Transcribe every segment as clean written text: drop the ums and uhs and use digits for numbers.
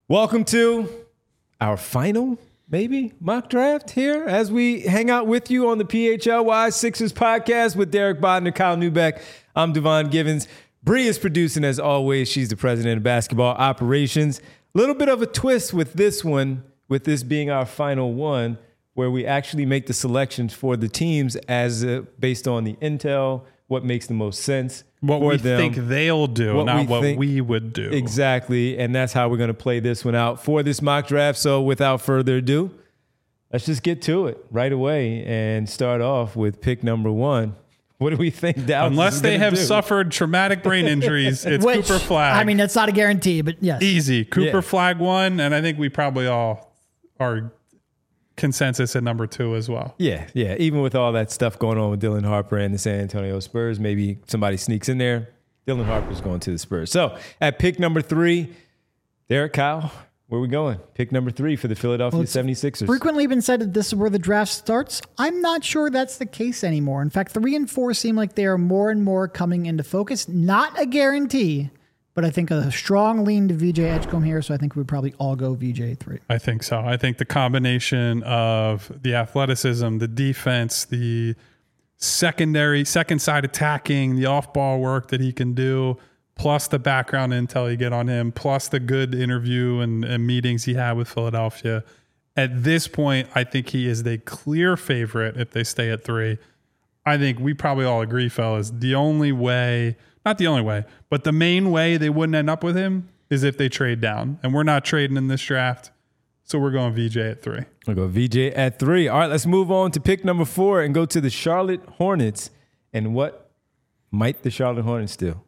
Welcome to our final, maybe, mock draft here as we hang out with you on the PHLY Sixers podcast with Derek Bodner, Kyle Neubeck. I'm Devon Givens. Bree is producing as always. She's the president of basketball operations. A little bit of a twist with this one, with this being our final one, where we actually make the selections for the teams as based on the intel, what makes the most sense. What we think they'll do, not what we would do. Exactly, and that's how we're going to play this one out for this mock draft. So without further ado, let's just get to it right away and start off with pick number 1. What do we think Dallas Unless they have suffered traumatic brain injuries, it's Cooper Flagg. I mean, that's not a guarantee, but yes. Easy. Cooper Flagg 1, and I think we probably all are consensus at number 2 as well. Yeah. Even with all that stuff going on with Dylan Harper and the San Antonio Spurs, maybe somebody sneaks in there. Dylan Harper's going to the Spurs. So at pick number 3, Derek, Kyle, where are we going? Pick number 3 for the Philadelphia 76ers. Frequently been said that this is where the draft starts. I'm not sure that's the case anymore. In fact, 3 and 4 seem like they are more and more coming into focus. Not a guarantee, but I think a strong lean to VJ Edgecombe here, so I think we'd probably all go VJ 3. I think so. I think the combination of the athleticism, the defense, the second side attacking, the off-ball work that he can do, plus the background intel you get on him, plus the good interview and meetings he had with Philadelphia. At this point, I think he is the clear favorite if they stay at 3. I think we probably all agree, fellas, the only way... Not the only way, but the main way they wouldn't end up with him is if they trade down. And we're not trading in this draft, so we're going VJ at 3. We'll go VJ at 3. All right, let's move on to pick number 4 and go to the Charlotte Hornets. And what might the Charlotte Hornets do?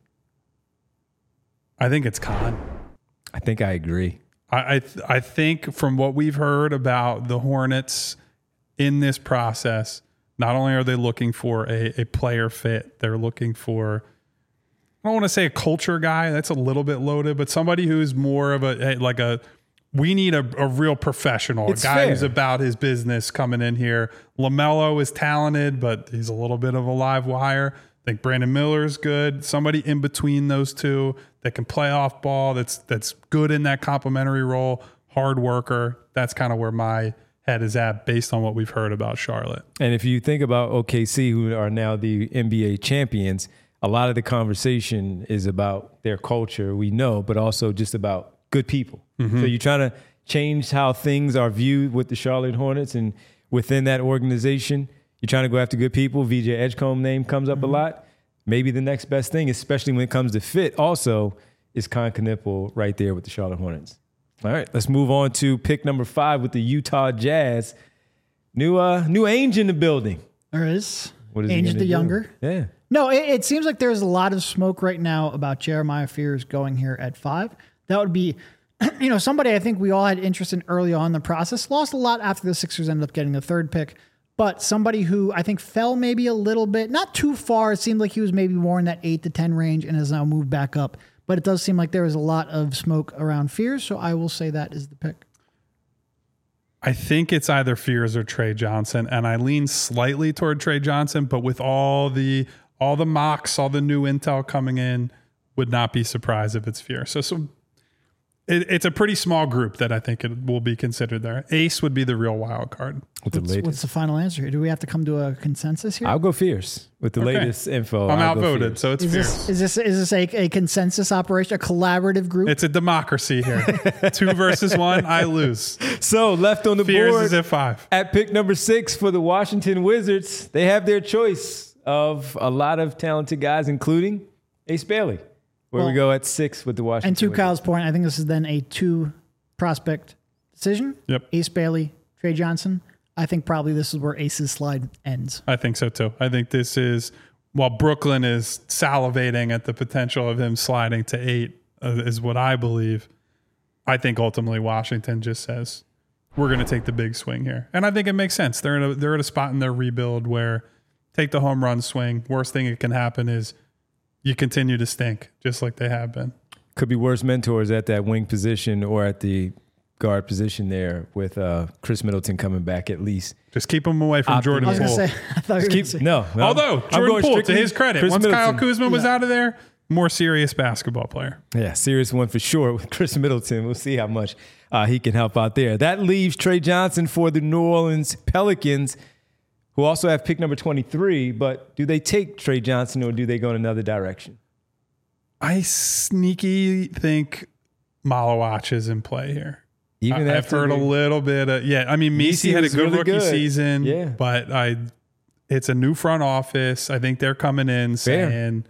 I think it's Khan. I think I agree. I think from what we've heard about the Hornets in this process, not only are they looking for a player fit, they're looking for... I don't want to say a culture guy. That's a little bit loaded, but somebody who's more of we need a real professional, it's a guy fair. who's about his business coming in here. LaMelo is talented, but he's a little bit of a live wire. I think Brandon Miller is good. Somebody in between those two that can play off ball, that's good in that complementary role, hard worker. That's kind of where my head is at based on what we've heard about Charlotte. And if you think about OKC, who are now the NBA champions, a lot of the conversation is about their culture, we know, but also just about good people. Mm-hmm. So you're trying to change how things are viewed with the Charlotte Hornets, and within that organization, you're trying to go after good people. VJ Edgecombe name comes up a lot. Maybe the next best thing, especially when it comes to fit, also is Con Knipple right there with the Charlotte Hornets. All right, let's move on to pick number 5 with the Utah Jazz. New Ainge in the building. There is. What is Ainge the younger. Yeah. No, it seems like there's a lot of smoke right now about Jeremiah Fears going here at 5. That would be, somebody I think we all had interest in early on in the process. Lost a lot after the Sixers ended up getting the 3rd pick. But somebody who I think fell maybe a little bit, not too far. It seemed like he was maybe more in that 8 to 10 range and has now moved back up. But it does seem like there is a lot of smoke around Fears, so I will say that is the pick. I think it's either Fears or Trey Johnson, and I lean slightly toward Trey Johnson, but with all the mocks, all the new intel coming in, would not be surprised if it's Fears. So it's a pretty small group that I think it will be considered there. Ace would be the real wild card. What's the final answer? Do we have to come to a consensus here? I'll go Fierce with the latest info. I'm outvoted, so it's Fierce. Is this a consensus operation, a collaborative group? It's a democracy here. 2 versus 1, I lose. So left on the Fierce board is at 5. At pick number 6 for the Washington Wizards, they have their choice of a lot of talented guys, including Ace Bailey. Where we go at 6 with the Washington And to Wizards. Kyle's point, I think this is then a 2 prospect decision. Yep. Ace Bailey, Trey Johnson. I think probably this is where Ace's slide ends. I think so too. I think this is, while Brooklyn is salivating at the potential of him sliding to 8, is what I believe. I think ultimately Washington just says, we're going to take the big swing here. And I think it makes sense. They're at a spot in their rebuild where take the home run swing. Worst thing that can happen is you continue to stink, just like they have been. Could be worse mentors at that wing position or at the guard position there with Chris Middleton coming back at least. Just keep him away from Jordan Poole. I thought you were going to say. Although, Jordan Poole, to his credit, once Kyle Kuzma was out of there, more serious basketball player. Yeah, serious one for sure with Chris Middleton. We'll see how much he can help out there. That leaves Trey Johnson for the New Orleans Pelicans, who also have pick number 23. But do they take Trey Johnson or do they go in another direction? I sneaky think Malawach is in play here. Even I've heard a little bit of, I mean, Messi had a good rookie season, but it's a new front office. I think they're coming in saying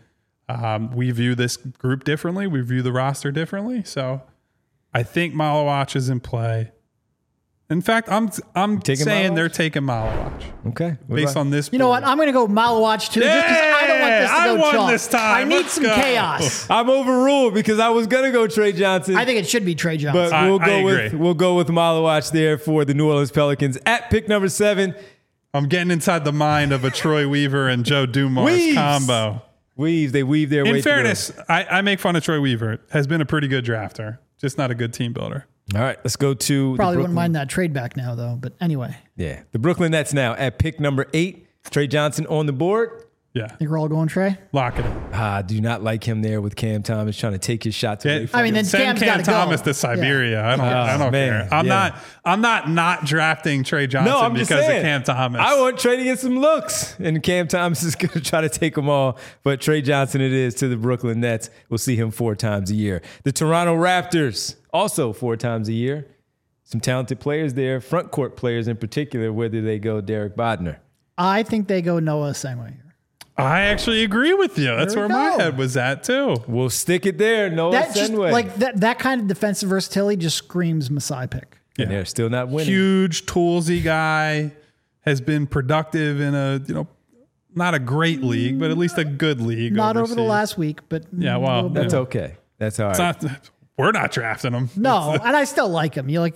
we view this group differently. We view the roster differently. So I think Malawach is in play. In fact, I'm saying they're taking Malawach. Okay. Based on this. You know what? I'm going to go Malawach too, just because I don't want this to go won chalk. This time. I need Let's some go. chaos. I'm overruled because I was going to go Trey Johnson. I think it should be Trey Johnson. But we'll go with Malawach there for the New Orleans Pelicans at pick number 7. I'm getting inside the mind of a Troy Weaver and Joe Dumars combo. They weave their way. In fairness, I make fun of Troy Weaver. Has been a pretty good drafter, just not a good team builder. All right, let's go to probably wouldn't mind that trade back now though. But anyway, yeah, the Brooklyn Nets now at pick number 8. Trey Johnson on the board. Yeah, think we're all going Trey. Lock it in. Do not like him there with Cam Thomas trying to take his shots away from him. Then send Cam Thomas to Siberia. Yeah. I don't care. I'm not drafting Trey Johnson because of Cam Thomas. I want Trey to get some looks, and Cam Thomas is going to try to take them all. But Trey Johnson it is to the Brooklyn Nets. We'll see him 4 times a year. The Toronto Raptors also 4 times a year. Some talented players there, front court players in particular. Whether they go Derek Bodner, I think they go Noah Sengun here. I actually agree with you. That's where my head was at too. We'll stick it there. Noah Sengun. That kind of defensive versatility just screams Masai pick. Yeah. And they're still not winning. Huge toolsy guy, has been productive in a not a great league, but at least a good league. Not overseas. Over the last week, but that's okay. That's all right. We're not drafting him. No, and I still like him. Noah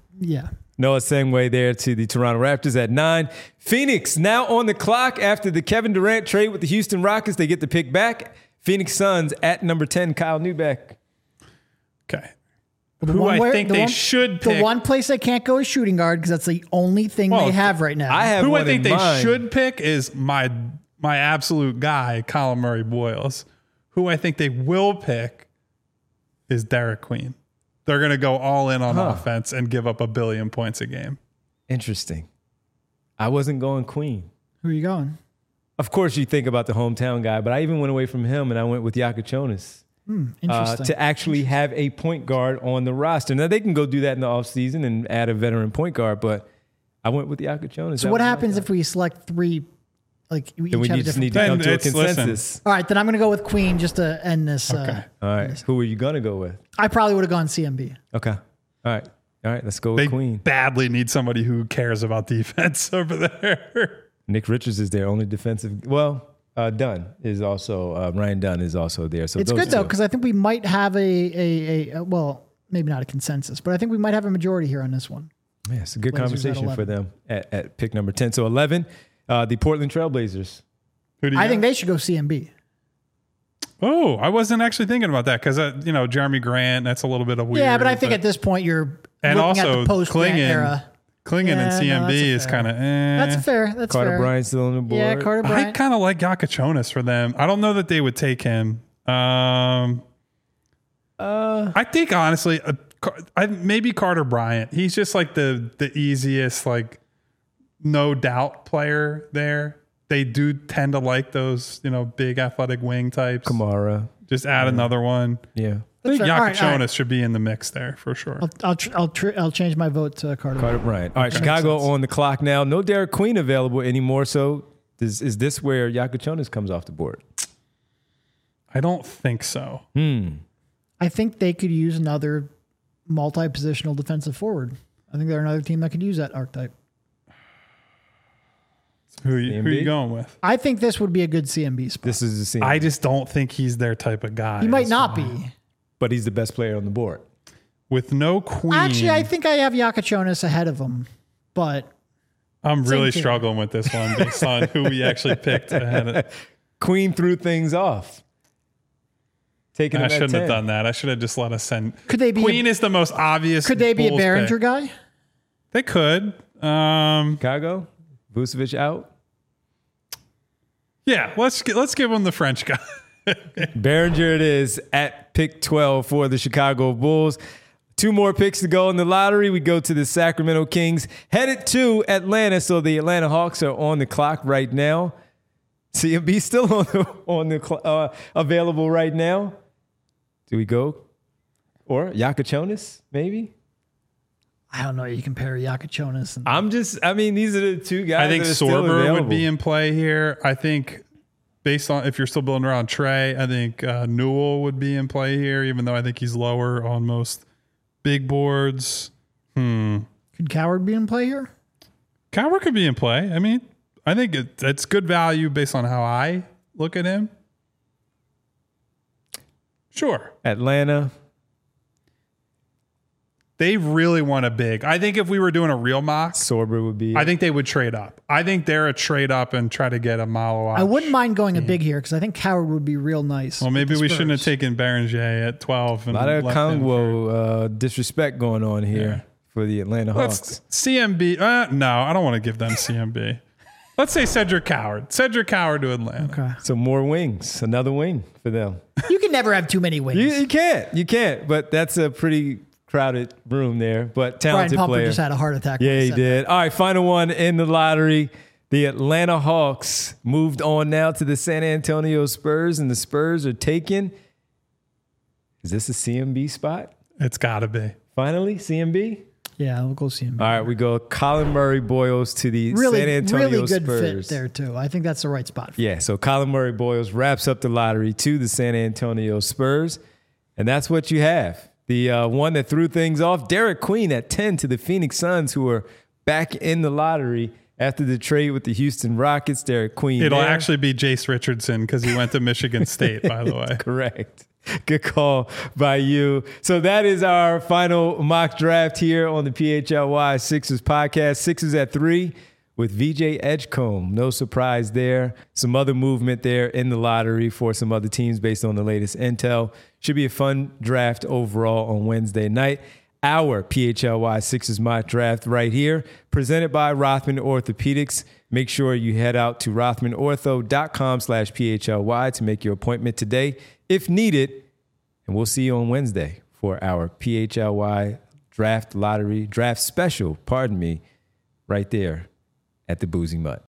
Sengun there to the Toronto Raptors at 9. Phoenix now on the clock after the Kevin Durant trade with the Houston Rockets. They get the pick back. Phoenix Suns at number 10, Kyle Neubeck. Okay. I think they should pick. The one place they can't go is shooting guard because that's the only thing they have right now. I think they should pick is my absolute guy, Colin Murray Boyles. Who I think they will pick is Derek Queen. They're going to go all in on offense and give up 1 billion points a game. Interesting. I wasn't going Queen. Who are you going? Of course, you think about the hometown guy, but I even went away from him and I went with Yakachonis to actually have a point guard on the roster. Now, they can go do that in the offseason and add a veteran point guard, but I went with Yakachonis. So what happens if we select 3? Then we just need to come to a consensus. Listen. All right, then I'm going to go with Queen just to end this. Okay. All right. Who are you going to go with? I probably would have gone CMB. Okay. All right. Let's go with Queen. They badly need somebody who cares about defense over there. Nick Richards is their only defensive. Well, Dunn is also Ryan Dunn is also there. So it's good though because I think we might have well, maybe not a consensus, but I think we might have a majority here on this one. Yeah, it's a good conversation for them at pick number 10. So 11. The Portland Trailblazers. I think they should go CMB. Oh, I wasn't actually thinking about that because Jeremy Grant. That's a little bit of weird. Yeah, but I think at this point you're looking at the post-Grant era. Clingan and CMB is kind of. That's fair. That's Carter fair. Bryant's still on the board. Yeah, Carter Bryant. I kind of like Yakachonis for them. I don't know that they would take him. I think honestly, maybe Carter Bryant. He's just like the easiest no doubt player there. They do tend to like those, big athletic wing types. Kamara. Just add another one. Yeah. I think Yakachonis should be in the mix there for sure. I'll change my vote to Carter Bryant. All right, Chicago on the clock now. No Derek Queen available anymore. So is this where Yakachonis comes off the board? I don't think so. I think they could use another multi-positional defensive forward. I think they're another team that could use that archetype. Who are you going with? I think this would be a good CMB spot. This is the CMB. I just don't think he's their type of guy. He might not be. But he's the best player on the board. With no Queen. Actually, I think I have Yakachonis ahead of him. But I'm really struggling with this one based on who we actually picked ahead of. Queen threw things off. I shouldn't have done that. I should have just let us send. Could they be Queen is the most obvious. Could they be Bulls a Behringer pick. guy? They could. Chicago? Vucevic out? Yeah, let's give him the French guy. Behringer it is at pick 12 for the Chicago Bulls. 2 more picks to go in the lottery. We go to the Sacramento Kings, headed to Atlanta. So the Atlanta Hawks are on the clock right now. CMB still available right now. Do we go? Or Yakachonis, maybe? I don't know. You compare Yakachonis. These are the 2 guys. I think that are still Sorber available. would be in play here. I think based on if you're still building around Trey, I think Newell would be in play here, even though I think he's lower on most big boards. Could Coward be in play here? Coward could be in play. I mean, I think it's good value based on how I look at him. Sure. Atlanta. They really want a big. I think if we were doing a real mock, Sorber would be. I think they would trade up. I think they're a trade up and try to get a Malo. I wouldn't mind going a big here because I think Coward would be real nice. Well, maybe we shouldn't have taken Behringer at 12. And a lot of Kongwo disrespect going on here for the Atlanta Hawks. CMB. No, I don't want to give them CMB. Let's say Cedric Coward. Cedric Coward to Atlanta. Okay. So more wings. Another wing for them. You can never have too many wings. You can't. You can't. But that's a pretty crowded room there. But talented Brian Pumper player. just had a heart attack. Yeah, he did. All right, final one in the lottery. The Atlanta Hawks moved on now to the San Antonio Spurs, and the Spurs are taken. Is this a CMB spot? It's got to be. Finally, CMB? Yeah, we'll go see him. All right, we go Colin Murray Boyles to the San Antonio really good Spurs. fit there, too. I think that's the right spot. Yeah, so Colin Murray Boyles wraps up the lottery to the San Antonio Spurs, and that's what you have. The one that threw things off, Derek Queen at 10 to the Phoenix Suns, who are back in the lottery after the trade with the Houston Rockets. Derek Queen. It'll actually be Jace Richardson because he went to Michigan State, by the way. Correct. Good call by you. So that is our final mock draft here on the PHLY Sixers podcast. Sixers at 3 with VJ Edgecombe. No surprise there. Some other movement there in the lottery for some other teams based on the latest intel. Should be a fun draft overall on Wednesday night. Our PHLY Sixers mock draft right here, presented by Rothman Orthopedics. Make sure you head out to rothmanortho.com/PHLY to make your appointment today if needed. And we'll see you on Wednesday for our PHLY draft special, right there at the Boozy Mutt.